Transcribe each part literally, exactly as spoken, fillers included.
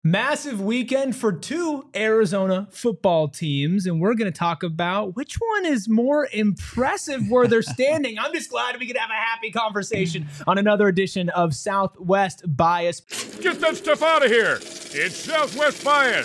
Massive weekend for two Arizona football teams, and we're going to talk about which one is more impressive where they're standing. I'm just glad we could have a happy conversation on another edition of Southwest Bias. Get that stuff out of here. It's Southwest Bias.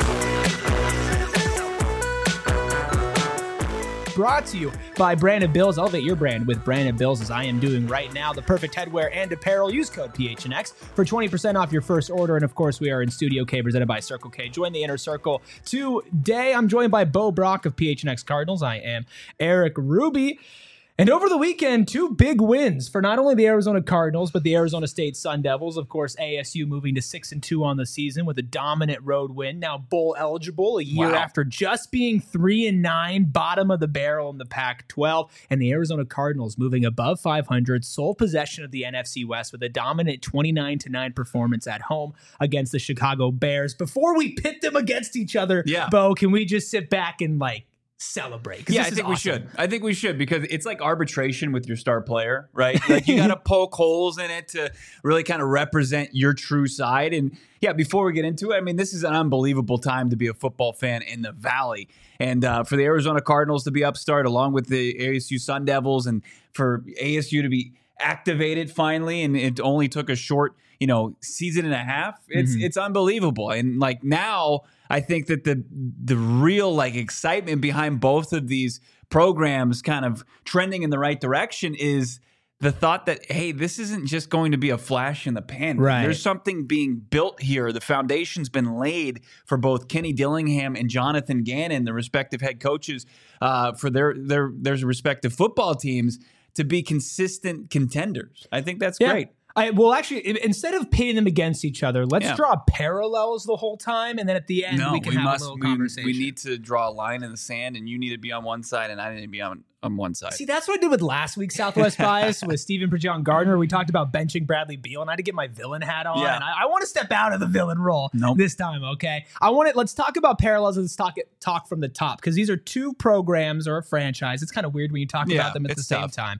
Brought to you by Brandon Bills. Elevate your brand with Brandon Bills, as I am doing right now. The perfect headwear and apparel. Use code P H N X for twenty percent off your first order. And of course, we are in Studio K, presented by Circle K. Join the inner circle today. I'm joined by Bo Brock of P H N X Cardinals. I am Eric Ruby. And over the weekend, two big wins for not only the Arizona Cardinals, but the Arizona State Sun Devils. Of course, A S U moving to six and two on the season with a dominant road win. Now bowl eligible a year Wow. after just being three and nine, bottom of the barrel in the Pac twelve. And the Arizona Cardinals moving above five hundred, sole possession of the N F C West with a dominant twenty-nine to nine performance at home against the Chicago Bears. Before we pit them against each other, Yeah. Bo, can we just sit back and like celebrate? 'Cause Yeah, this I is think we awesome. should. I think we should because it's like arbitration with your star player, right? Like you got to poke holes in it to really kind of represent your true side. And yeah, before we get into it, I mean, this is an unbelievable time to be a football fan in the Valley. And uh, for the Arizona Cardinals to be upstart along with the A S U Sun Devils, and for A S U to be activated finally, and it only took a short, you know, season and a half. It's Mhm. it's unbelievable. And like now, I think that the the real like excitement behind both of these programs kind of trending in the right direction is the thought that, hey, this isn't just going to be a flash in the pan. Right. There's something being built here. The foundation's been laid for both Kenny Dillingham and Jonathan Gannon, the respective head coaches uh, for their their their respective football teams, to be consistent contenders. I think that's Yeah. great. I, well, actually, i- instead of pitting them against each other, let's Yeah. draw parallels the whole time, and then at the end No, we can we have must. a little We, conversation. we need to draw a line in the sand, and you need to be on one side, and I need to be on, on one side. See, that's what I did with last week's Southwest Bias with Stephen Prejean Gardner. We talked about benching Bradley Beal, and I had to get my villain hat on. Yeah. And I, I want to step out of the villain role Nope. this time, okay? I want to, let's talk about parallels and let's talk, talk from the top, because these are two programs or a franchise. It's kind of weird when you talk Yeah, about them at the it's same tough. time,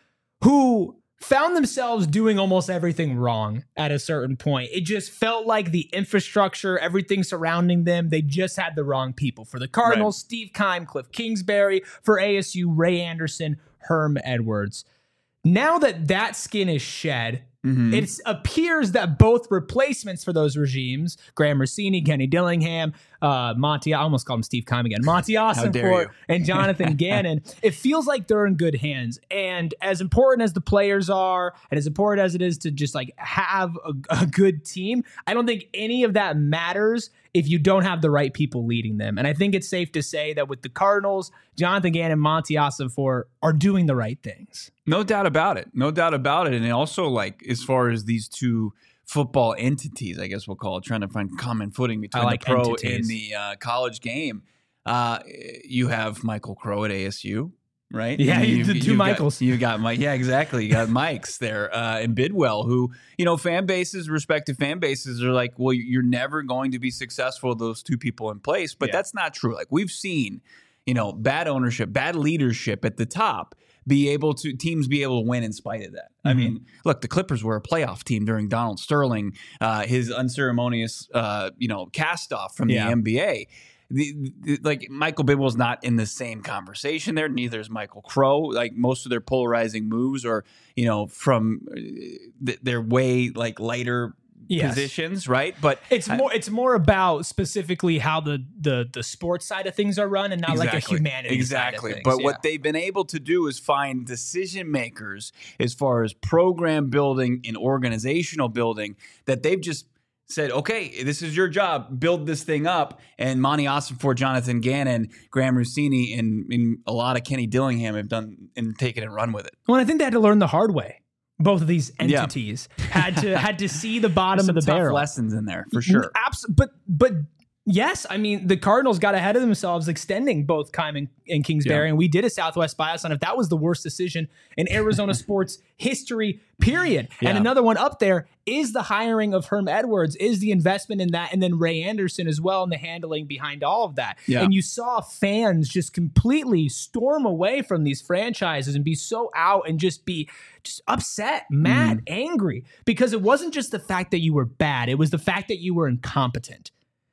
who found themselves doing almost everything wrong at a certain point. It just felt like the infrastructure, everything surrounding them, they just had the wrong people. For the Cardinals, Steve Keim, Cliff Kingsbury. For A S U, Ray Anderson, Herm Edwards. Now that that skin is shed, Mhm. it appears that both replacements for those regimes, Graham Rossini, Kenny Dillingham, uh, Monty, I almost called him Steve Keim again, Monty dare Ossenfort, you. and Jonathan Gannon, it feels like they're in good hands. And as important as the players are, and as important as it is to just like have a, a good team, I don't think any of that matters if you don't have the right people leading them. And I think it's safe to say that with the Cardinals, Jonathan Gannon and Monty Ossenfort are doing the right things. No doubt about it. No doubt about it. And also, like, as far as these two football entities, I guess we'll call it, trying to find common footing between I like the pro entities. and the uh, college game. Uh, you have Michael Crow at A S U, right? Yeah, And you- the two you've got- Michaels. you got Mike. Yeah, exactly. You got Mike's there uh, and Bidwell, who, you know, fan bases, respective fan bases are like, well, you're never going to be successful with those two people in place. But Yeah. that's not true. Like, we've seen, you know, bad ownership, bad leadership at the top be able to teams be able to win in spite of that. I Mhm. mean, look, the Clippers were a playoff team during Donald Sterling, uh, his unceremonious, uh, you know, cast off from Yeah. the N B A. The, the, like Michael Bidwell's not in the same conversation there. Neither is Michael Crow. Like most of their polarizing moves are, you know, from uh, th- their way like lighter Yes. positions, right? But It's I- more. It's more about specifically how the the the sports side of things are run, and not like a Exactly. humanity Exactly. side of things. But Yeah. what they've been able to do is find decision makers as far as program building and organizational building that they've just said, okay, this is your job, build this thing up. And Monty Ossenfort, Jonathan Gannon, Graham Rossini, and, and a lot of Kenny Dillingham have done and taken and run with it. Well, I think they had to learn the hard way. Both of these Yeah. entities had to had to see the bottom Some of the tough barrel. lessons in there for sure. Abs- but but yes, I mean the Cardinals got ahead of themselves, extending both Keim and, and Kingsbury, Yeah. and we did a Southwest bias on if that was the worst decision in Arizona sports history. Period. Yeah. And another one up there is the hiring of Herm Edwards, is the investment in that, and then Ray Anderson as well, and the handling behind all of that. Yeah. And you saw fans just completely storm away from these franchises and be so out and just be just upset, mad, Mm. angry, because it wasn't just the fact that you were bad; it was the fact that you were incompetent.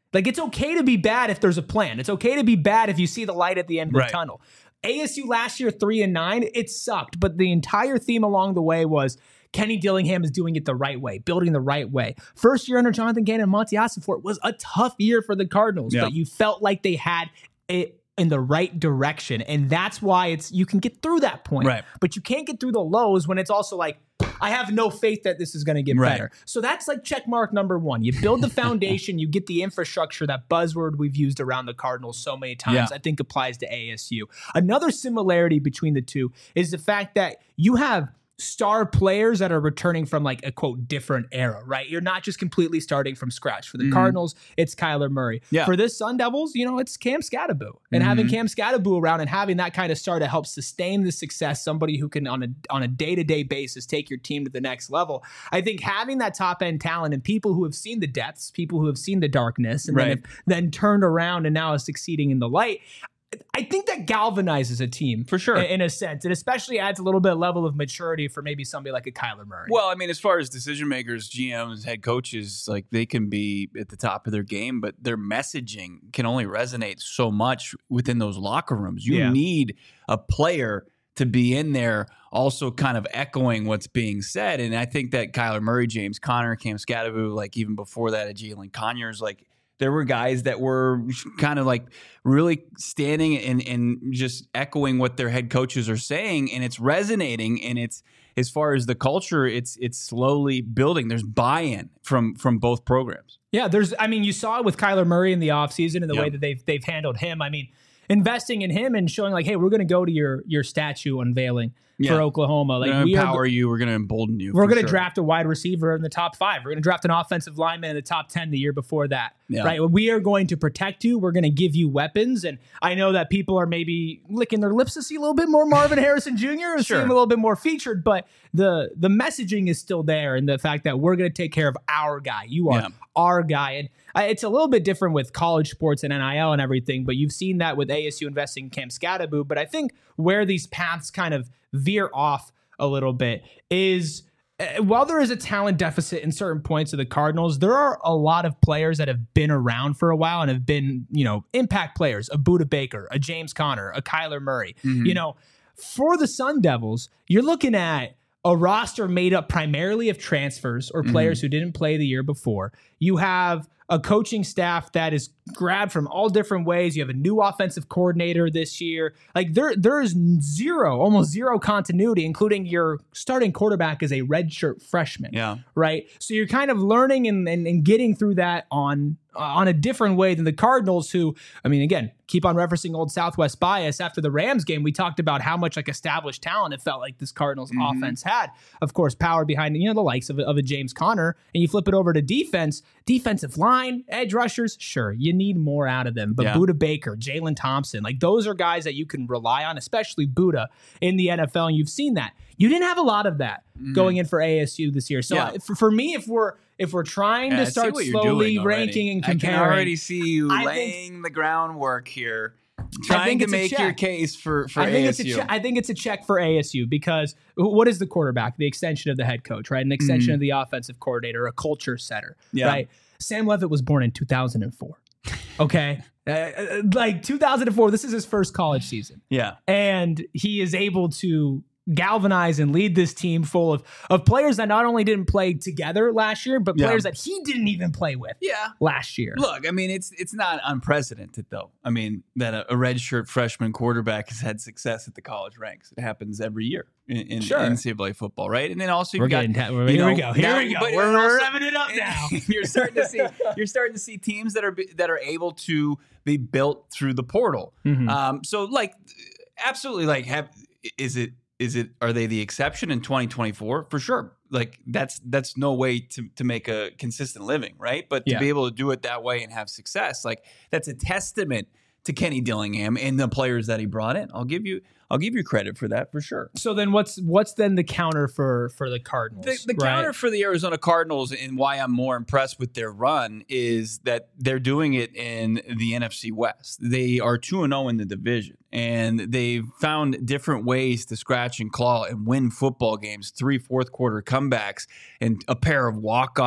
Like, it's okay to be bad if there's a plan. It's okay to be bad if you see the light at the end of Right. the tunnel. A S U last year, three and nine, it sucked. But the entire theme along the way was Kenny Dillingham is doing it the right way, building the right way. First year under Jonathan Gannon and Monty Ossenfort was a tough year for the Cardinals, Yeah. but you felt like they had it in the right direction. And that's why it's you can get through that point. Right. But you can't get through the lows when it's also like, I have no faith that this is going to get Right. better. So that's like check mark number one. You build the foundation, you get the infrastructure, that buzzword we've used around the Cardinals so many times, Yeah. I think applies to A S U. Another similarity between the two is the fact that you have star players that are returning from like a quote different era, right? You're not just completely starting from scratch. For the Mhm. Cardinals, it's Kyler Murray. Yeah. For this Sun Devils, you know, it's Cam Scatterbo. And having Mhm. Cam Scatterbo around and having that kind of star to help sustain the success, somebody who can on a on a day-to-day basis take your team to the next level. I think having that top end talent and people who have seen the depths, people who have seen the darkness, and Right. then, have, then turned around and now is succeeding in the light. I think that galvanizes a team For sure. in, in a sense. It especially adds a little bit of level of maturity for maybe somebody like a Kyler Murray. Well, I mean, as far as decision makers, G Ms, head coaches, like they can be at the top of their game, but their messaging can only resonate so much within those locker rooms. You Yeah. need a player to be in there also kind of echoing what's being said. And I think that Kyler Murray, James Conner, Cam Scatterbo, like even before that, Jalen Conyers, like there were guys that were kind of like really standing and, and just echoing what their head coaches are saying, and it's resonating. And it's as far as the culture, it's it's slowly building. There's buy-in from from both programs. Yeah, there's. I mean, you saw it with Kyler Murray in the offseason and the Yep. way that they've they've handled him. I mean, investing in him and showing like, hey, we're going to go to your your statue unveiling Yeah. for Oklahoma. Like We're we going to are. empower you. We're going to embolden you. We're for going to sure. draft a wide receiver in the top five. We're going to draft an offensive lineman in the top ten the year before that. Yeah. Right? We are going to protect you. We're going to give you weapons. And I know that people are maybe licking their lips to see a little bit more Marvin Harrison Junior and see Sure. him a little bit more featured, but the the messaging is still there, and the fact that we're going to take care of our guy. You are Yeah. our guy. And uh, it's a little bit different with college sports and N I L and everything, but you've seen that with A S U investing in Cam Scatterbo. But I think where these paths kind of veer off a little bit is uh, while there is a talent deficit in certain points of the Cardinals, there are a lot of players that have been around for a while and have been, you know, impact players, a Budda Baker, a James Conner, a Kyler Murray. Mhm. You know, for the Sun Devils, you're looking at a roster made up primarily of transfers or players who didn't play the year before. You have a coaching staff that is grabbed from all different ways. You have a new offensive coordinator this year. Like there, there is zero, almost zero continuity, including your starting quarterback is a redshirt freshman. Yeah. Right. So you're kind of learning and, and, and getting through that on uh, on a different way than the Cardinals, who, I mean, again, keep on referencing old Southwest bias. After the Rams game, we talked about how much like established talent it felt like this Cardinals Mhm. offense had. Of course, power behind, you know, the likes of, a- of a James Conner, and you flip it over to defense, defensive line, edge rushers. Sure, you need more out of them. But Yeah. Budda Baker, Jalen Thompson, like those are guys that you can rely on, especially Budda in the N F L. And you've seen that. You didn't have a lot of that going in for A S U this year. So Yeah. uh, for, for me, if we're if we're trying Yeah, I to see start what you're slowly doing already. ranking and I comparing, can already see you I think- laying the groundwork here, I trying think to it's a make your check. case for for I think A S U. it's a che- I think it's a check for A S U because what is the quarterback? The extension of the head coach, right? An extension Mhm. of the offensive coordinator, a culture setter, Yeah. right? Sam Levitt was born in two thousand four. Okay, uh, uh, like two thousand four. This is his first college season, yeah. and he is able to galvanize and lead this team full of of players that not only didn't play together last year, but Yeah. players that he didn't even play with Yeah. last year. Look, I mean, it's it's not unprecedented though. I mean, that a, a redshirt freshman quarterback has had success at the college ranks. It happens every year in, in Sure. N C double A football, right? And then also you've We're got, getting ta- you here know, we go. Here now- we go. but We're, also- we're revving it up now. you're starting to see you're starting to see teams that are be- that are able to be built through the portal. Mhm. Um, so like, absolutely, like, have is it is it are they the exception in twenty twenty-four? For sure. Like that's that's no way to to make a consistent living, right? But to Yeah. be able to do it that way and have success, like that's a testament to Kenny Dillingham and the players that he brought in. I'll give you I'll give you credit for that for sure. So then, what's what's then the counter for for the Cardinals? The, the right? counter for the Arizona Cardinals and why I'm more impressed with their run is that they're doing it in the N F C West. They are two and oh in the division, and they've found different ways to scratch and claw and win football games, three fourth quarter comebacks, and a pair of walk-off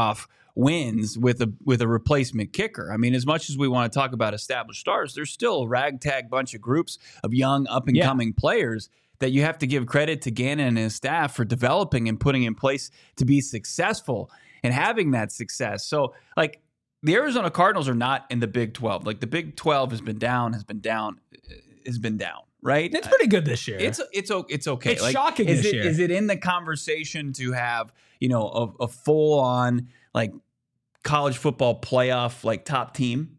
wins with a with a replacement kicker. I mean, as much as we want to talk about established stars, there's still a ragtag bunch of groups of young up and coming yeah. players that you have to give credit to Gannon and his staff for developing and putting in place to be successful and having that success. So, like, the Arizona Cardinals are not in the Big twelve. Like, the Big twelve has been down, has been down, has been down. Right, it's pretty good this year. It's it's it's okay. It's like, shocking is this it, year. Is it in the conversation to have you know a, a full on like college football playoff like top team?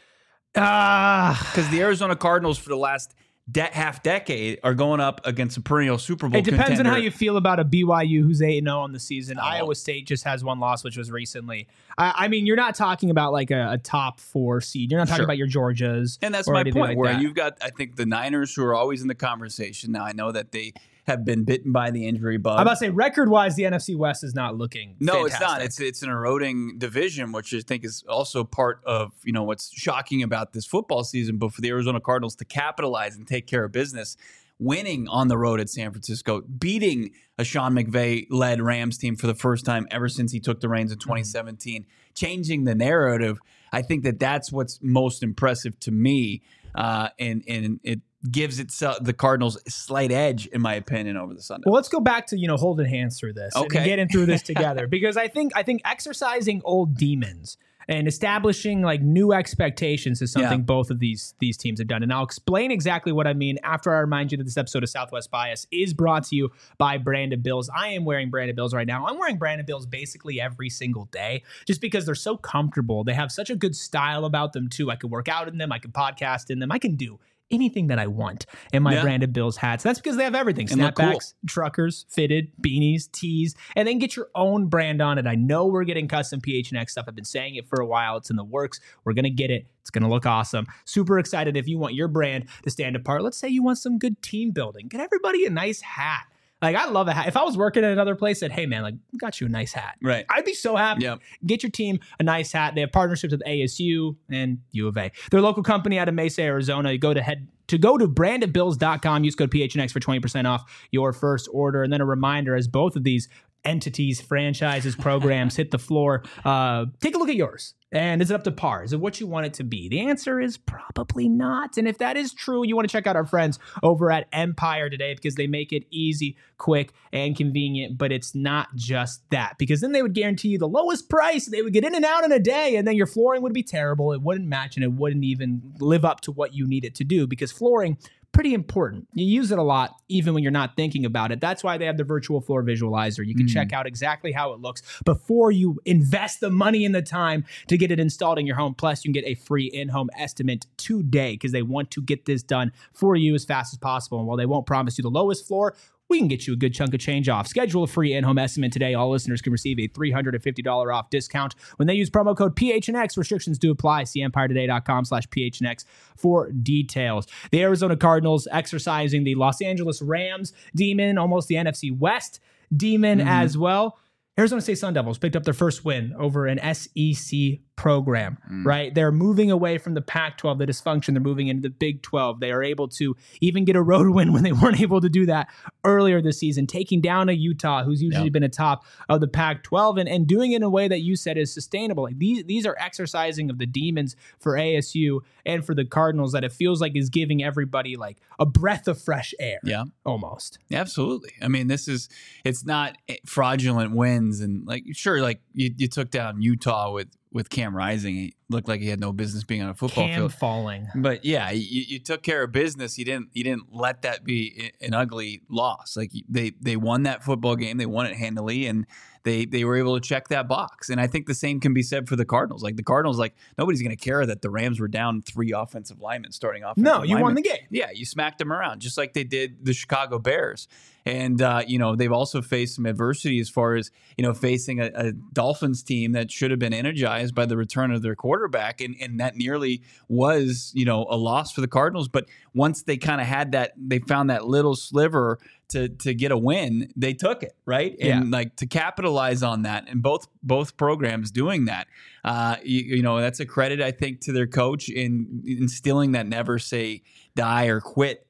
Ah, uh, because the Arizona Cardinals for the last de- half decade are going up against a perennial Super Bowl. It depends contender. on how you feel about a B Y U who's eight and zero on the season. Oh. Iowa State just has one loss, which was recently. I, I mean, you're not talking about like a, a top four seed. You're not talking sure. about your Georgias, and that's my point. Like where that. You've got, I think, the Niners who are always in the conversation. Now I know that they have been bitten by the injury bug. I'm about to say, record-wise, the N F C West is not looking No, fantastic. It's not. It's it's an eroding division, which I think is also part of, you know, what's shocking about this football season. But for the Arizona Cardinals to capitalize and take care of business, winning on the road at San Francisco, beating a Sean McVay-led Rams team for the first time ever since he took the reins in twenty seventeen, mm-hmm. changing the narrative, I think that that's what's most impressive to me, uh, and, and it gives itself the Cardinals a slight edge, in my opinion, over the Sunday. Well, let's go back to, you know, holding hands through this okay. and getting through this together, because I think I think exercising old demons and establishing like new expectations is something yeah. both of these these teams have done. And I'll explain exactly what I mean after I remind you that this episode of Southwest Bias is brought to you by Branded Bills. I am wearing Branded Bills right now. I'm wearing Branded Bills basically every single day just because they're so comfortable. They have such a good style about them too. I can work out in them. I can podcast in them. I can do anything that I want in my yeah. Branded Bills hats. That's because they have everything. And Snapbacks, cool. truckers, fitted, beanies, tees, and then get your own brand on it. I know we're getting custom P H N X stuff. I've been saying it for a while. It's in the works. We're going to get it. It's going to look awesome. Super excited if you want your brand to stand apart. Let's say you want some good team building. Get everybody a nice hat. Like, I love a hat. If I was working at another place, said, hey, man, like, we got you a nice hat. Right. I'd be so happy. Yep. Get your team a nice hat. They have partnerships with A S U and U of A. They're a local company out of Mesa, Arizona. You go to head to go to branded bills dot com. Use code P H N X for twenty percent off your first order. And then a reminder, as both of these entities, franchises, programs hit the floor, uh, take a look at yours. And is it up to par? Is it what you want it to be? The answer is probably not. And if that is true, you want to check out our friends over at Empire today, because they make it easy, quick, and convenient. But it's not just that, because then they would guarantee you the lowest price. They would get in and out in a day, and then your flooring would be terrible. It wouldn't match, and it wouldn't even live up to what you need it to do, because flooring, pretty important. You use it a lot, even when you're not thinking about it. That's why they have the virtual floor visualizer. You can mm. check out exactly how it looks before you invest the money and the time to get it installed in your home. Plus, you can get a free in-home estimate today, because they want to get this done for you as fast as possible. And while they won't promise you the lowest floor, we can get you a good chunk of change off. Schedule a free in-home estimate today. All listeners can receive a three hundred fifty dollars off discount when they use promo code P H N X. Restrictions do apply. See empire today dot com slash P H N X for details. The Arizona Cardinals exercising the Los Angeles Rams demon, almost the N F C West demon mm-hmm. as well. Arizona State Sun Devils picked up their first win over an S E C program, mm. right? They're moving away from the Pac twelve, the dysfunction. They're moving into the Big twelve. They are able to even get a road win when they weren't able to do that earlier this season, taking down a Utah who's usually yep. been atop of the Pac twelve, and, and doing it in a way that you said is sustainable. Like these, these are exercising of the demons for A S U and for the Cardinals that it feels like is giving everybody like a breath of fresh air. Yeah. Almost. Absolutely. I mean, this is, it's not fraudulent wins. And like, sure, like you, you took down Utah with, with Cam Rising. He looked like he had no business being on a football Cam field. falling. But yeah, you, you took care of business. You didn't you didn't let that be an ugly loss. Like they they won that football game. They won it handily, and they they were able to check that box. And I think the same can be said for the Cardinals. Like the Cardinals, like nobody's going to care that the Rams were down three offensive linemen starting offensive No, you linemen. won the game. Yeah, you smacked them around just like they did the Chicago Bears. And, uh, you know, they've also faced some adversity as far as, you know, facing a, a Dolphins team that should have been energized by the return of their quarterback. And, and that nearly was, you know, a loss for the Cardinals. But once they kind of had that, they found that little sliver to to get a win, they took it, right? And yeah. like to capitalize on that, and both both programs doing that, uh, you, you know, that's a credit, I think, to their coach in instilling that never say die or quit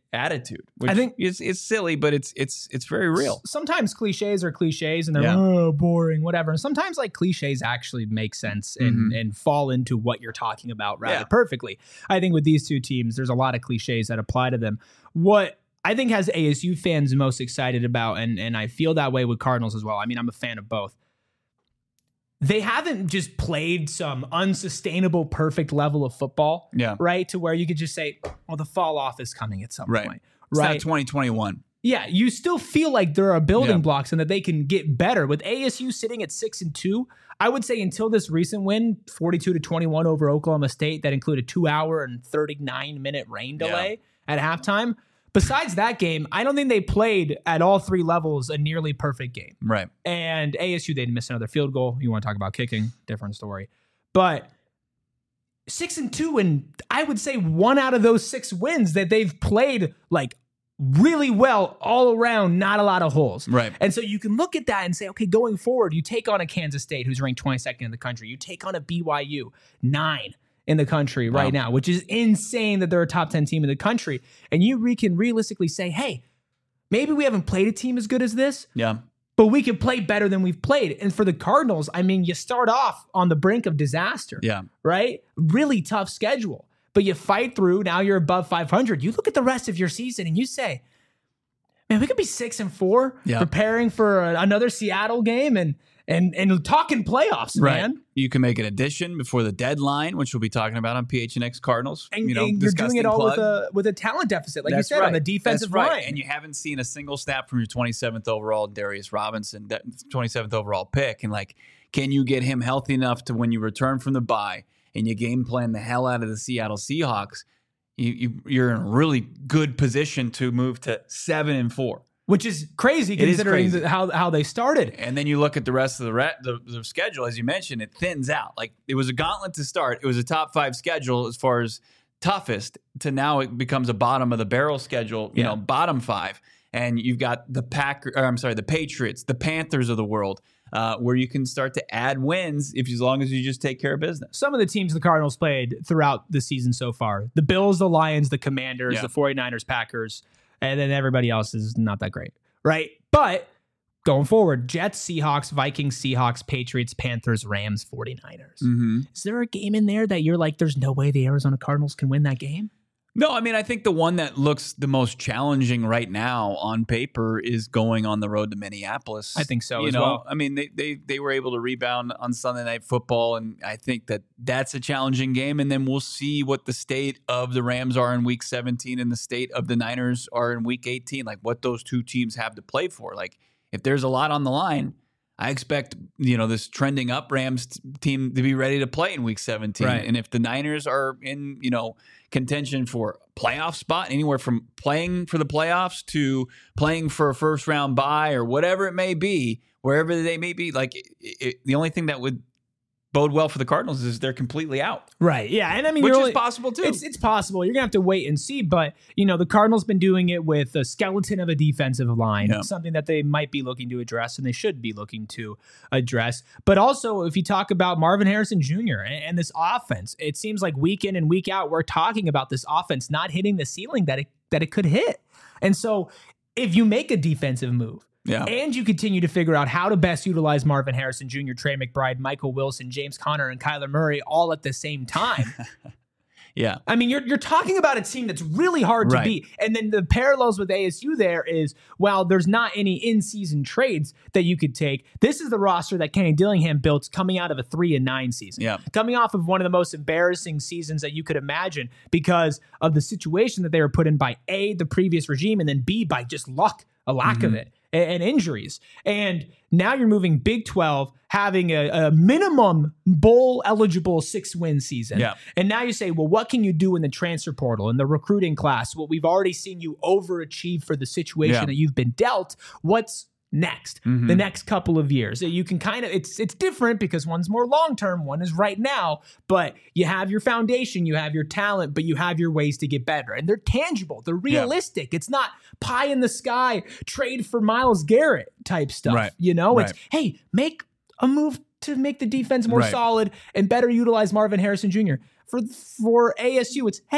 attitude. Which I think it's it's silly, but it's it's it's very real. Sometimes cliches are cliches and they're Yeah. oh, boring, whatever. And sometimes like cliches actually make sense and, Mhm. and fall into what you're talking about rather Yeah. perfectly. I think with these two teams, there's a lot of cliches that apply to them. What I think has A S U fans most excited about, and, and I feel that way with Cardinals as well. I mean, I'm a fan of both. They haven't just played some unsustainable, perfect level of football, Yeah. right? To where you could just say, well, the fall off is coming at some Right. point. It's Right. not twenty twenty-one. Yeah, you still feel like there are building Yeah. blocks and that they can get better. With A S U sitting at six and two, I would say until this recent win, forty-two to twenty-one over Oklahoma State, that included two hour and thirty-nine minute rain delay at halftime. Besides that game, I don't think they played at all three levels a nearly perfect game. Right. And A S U, they missed another field goal. You want to talk about kicking, different story. But six and two, and I would say one out of those six wins that they've played like really well all around, not a lot of holes. Right. And so you can look at that and say, okay, going forward, you take on a Kansas State who's ranked twenty-second in the country. You take on a B Y U, nine in the country right Wow. now, which is insane that they're a top ten team in the country. And you re- can realistically say, hey, maybe we haven't played a team as good as this, Yeah. but we can play better than we've played. And for the Cardinals, I mean, you start off on the brink of disaster, Yeah. right? Really tough schedule, but you fight through. Now you're above five hundred. You look at the rest of your season and you say, man, we could be six and four, Yeah. preparing for a, another Seattle game and and and talking playoffs, Right. man. You can make an addition before the deadline, which we'll be talking about on P H N X Cardinals. And, you know, and you're doing disgusting it all plug. with a with a talent deficit, like That's you said, on right. the defensive That's right. line. And you haven't seen a single snap from your twenty-seventh overall Darius Robinson, that twenty-seventh overall pick. And like, can you get him healthy enough to when you return from the bye and you game plan the hell out of the Seattle Seahawks, you, you you're in a really good position to move to seven and four. Which is crazy It is considering crazy. the- how how they started. And then you look at the rest of the, re- the the schedule, as you mentioned, it thins out. Like it was a gauntlet to start. It was a top five schedule as far as toughest to now it becomes a bottom of the barrel schedule, you Yeah. know, bottom five. And you've got the Pack, or I'm sorry, the Patriots, the Panthers of the world, uh, where you can start to add wins if as long as you just take care of business. Some of the teams the Cardinals played throughout the season so far, the Bills, the Lions, the Commanders, Yeah. the 49ers, Packers, and then everybody else is not that great, right? But going forward, Jets, Seahawks, Vikings, Seahawks, Patriots, Panthers, Rams, 49ers. Mm-hmm. Is there a game in there that you're like, there's no way the Arizona Cardinals can win that game? No, I mean, I think the one that looks the most challenging right now on paper is going on the road to Minneapolis. I think so You as know, well. I mean, they, they they were able to rebound on Sunday Night Football, and I think that that's a challenging game. And then we'll see what the state of the Rams are in Week seventeen and the state of the Niners are in Week eighteen, like what those two teams have to play for. Like, if there's a lot on the line, I expect, you know, this trending up Rams t- team to be ready to play in Week seventeen. Right. And if the Niners are in, you know, contention for a playoff spot, anywhere from playing for the playoffs to playing for a first round bye or whatever it may be, wherever they may be, like it, it, the only thing that would bode well for the Cardinals is they're completely out, Right. Yeah. And I mean, which you're is only- possible too. It's it's possible. You're gonna have to wait and see. But you know, the Cardinals been doing it with a skeleton of a defensive line, Yeah. something that they might be looking to address, and they should be looking to address. But also, if you talk about Marvin Harrison Junior and, and this offense, it seems like week in and week out, we're talking about this offense not hitting the ceiling that it that it could hit. And so, if you make a defensive move, yeah. and you continue to figure out how to best utilize Marvin Harrison Junior, Trey McBride, Michael Wilson, James Conner, and Kyler Murray all at the same time. Yeah. I mean, you're you're talking about a team that's really hard to Right. beat. And then the parallels with A S U there is, while there's not any in-season trades that you could take, this is the roster that Kenny Dillingham built coming out of a three and nine season. Yeah. Coming off of one of the most embarrassing seasons that you could imagine because of the situation that they were put in by A, the previous regime, and then B, by just luck, a lack of it, and, and injuries. And now you're moving Big twelve, having a, a minimum bowl eligible six win season. Yeah. And now you say, well, what can you do in the transfer portal, in the recruiting class? Well, we've already seen you overachieve for the situation Yeah. that you've been dealt. What's next? Mhm. The next couple of years. You can kind of, it's it's different because one's more long-term, one is right now, but you have your foundation, you have your talent, but you have your ways to get better. And they're tangible, they're realistic. It's not pie in the sky, trade for Myles Garrett type stuff. Right. You know, it's, Right. hey, make a move to make the defense more Right. solid and better utilize Marvin Harrison Junior For for A S U, it's, hey,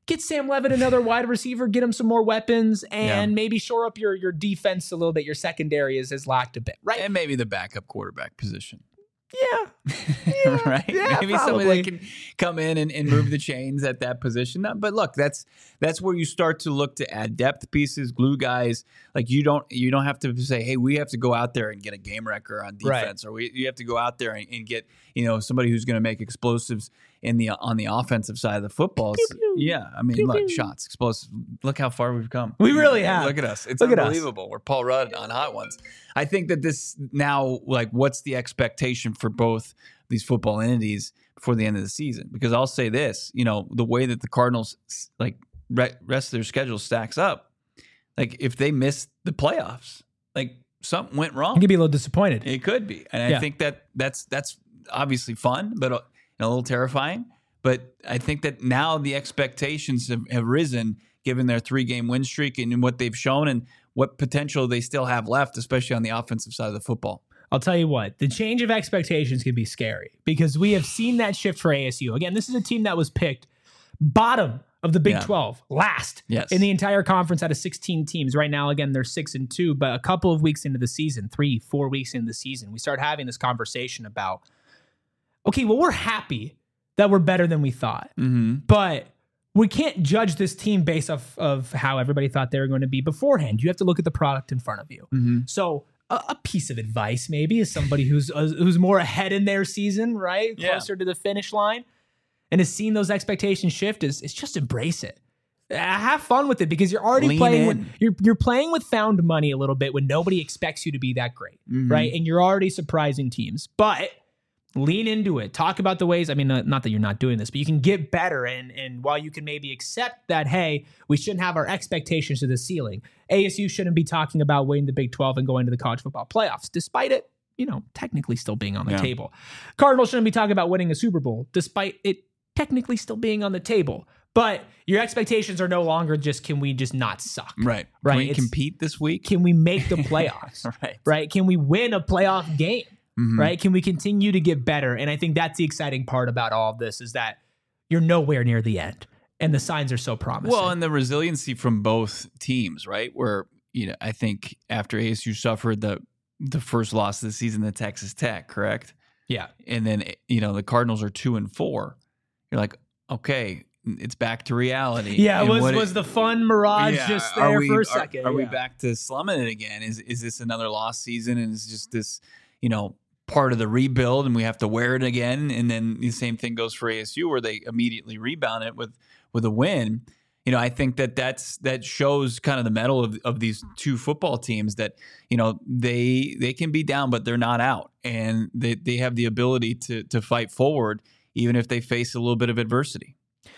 get Sam Levitt another wide receiver, get him some more weapons, and Yeah. maybe shore up your your defense a little bit. Your secondary is, has lacked a bit, right? And maybe the backup quarterback position. Yeah. Yeah, right? yeah, Maybe probably. somebody that can come in and, and move the chains at that position. No, But look, that's that's where you start to look to add depth pieces, glue guys. Like you don't you don't have to say, hey, we have to go out there and get a game wrecker on defense, Right. or we you have to go out there and, and get you know somebody who's going to make explosives in the on the offensive side of the football. Pew, pew. Yeah, I mean, Pew, look, pew. shots, explosive. Look how far we've come. We really have. Look at us. It's Look at us. unbelievable. We're Paul Rudd on Hot Ones. I think that this now, like, what's the expectation for both these football entities before the end of the season? Because I'll say this, you know, the way that the Cardinals, like, re- rest of their schedule stacks up, like, if they miss the playoffs, like, something went I wrong. could be a little disappointed. It could be. And Yeah. I think that that's that's obviously fun, but uh, a little terrifying. But I think that now the expectations have, have risen given their three-game win streak and what they've shown and what potential they still have left, especially on the offensive side of the football. I'll tell you what, the change of expectations can be scary because we have seen that shift for A S U. Again, this is a team that was picked bottom of the Big Yeah. twelve, last Yes. in the entire conference out of sixteen teams. Right now, again, they're six and two, but a couple of weeks into the season, three, four weeks into the season, we start having this conversation about, okay, well, we're happy that we're better than we thought, Mm-hmm. but we can't judge this team based off of how everybody thought they were going to be beforehand. You have to look at the product in front of you. Mm-hmm. So a, a piece of advice maybe is somebody who's uh, who's more ahead in their season, right? Yeah. Closer to the finish line and has seen those expectations shift is, is just embrace it. Uh, Have fun with it because you're already Lean playing in. with you're you're playing with found money a little bit when nobody expects you to be that great, Mhm. right? And you're already surprising teams. But lean into it. Talk about the ways. I mean, uh, not that you're not doing this, but you can get better. And and while you can maybe accept that, hey, we shouldn't have our expectations to the ceiling. A S U shouldn't be talking about winning the Big twelve and going to the college football playoffs, despite it, you know, technically still being on the Yeah. table. Cardinals shouldn't be talking about winning a Super Bowl, despite it technically still being on the table. But your expectations are no longer just, can we just not suck? Right. Right, Can we it's- compete this week? Can we make the playoffs? Right. Right? Can we win a playoff game? Mhm. Right? Can we continue to get better? And I think that's the exciting part about all of this is that you're nowhere near the end. And the signs are so promising. Well, and the resiliency from both teams, right? Where, you know, I think after A S U suffered the the first loss of the season to Texas Tech, correct? yeah. And then, you know, the Cardinals are two and four. You're like, okay, it's back to reality. Yeah, And was what it- was the fun mirage Yeah, just are there we- for a are- second? Are, we Yeah. back to slumming it again? Is is this another lost season? And is just this, you know, part of the rebuild, and we have to wear it again? And then the same thing goes for A S U, where they immediately rebound it with with a win. You know, I think that that's that shows kind of the mettle of, of these two football teams that, you know, they they can be down, but they're not out, and they they have the ability to to fight forward even if they face a little bit of adversity.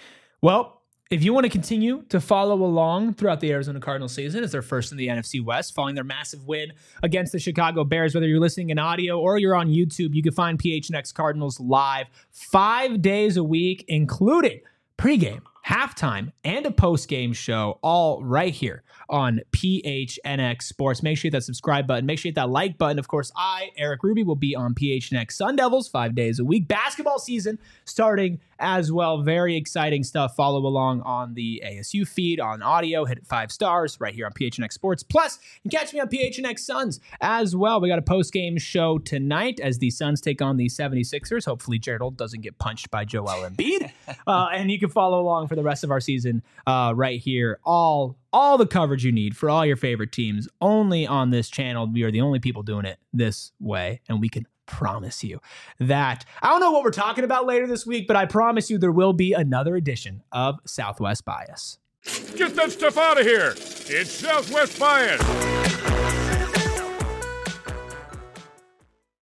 Well, if you want to continue to follow along throughout the Arizona Cardinals season as they're first in the N F C West, following their massive win against the Chicago Bears, whether you're listening in audio or you're on YouTube, you can find P H N X Cardinals live five days a week, including pregame, halftime, and a postgame show, all right here on P H N X Sports. Make sure you hit that subscribe button. Make sure you hit that like button. Of course, I, Eric Ruby, will be on P H N X Sun Devils five days a week. Basketball season starting as well. Very exciting stuff. Follow along on the A S U feed on audio. Hit it five stars right here on P H N X Sports. Plus, you can catch me on P H N X Suns as well. We got a post-game show tonight as the Suns take on the seventy-sixers. Hopefully, Gerald doesn't get punched by Joel Embiid. uh, and you can follow along for the rest of our season uh, right here. All all the coverage you need for all your favorite teams only on this channel. We are the only people doing it this way, and we can promise you that. I don't know what we're talking about later this week, but I promise you there will be another edition of Southwest Bias. Get that stuff out of here. It's Southwest Bias.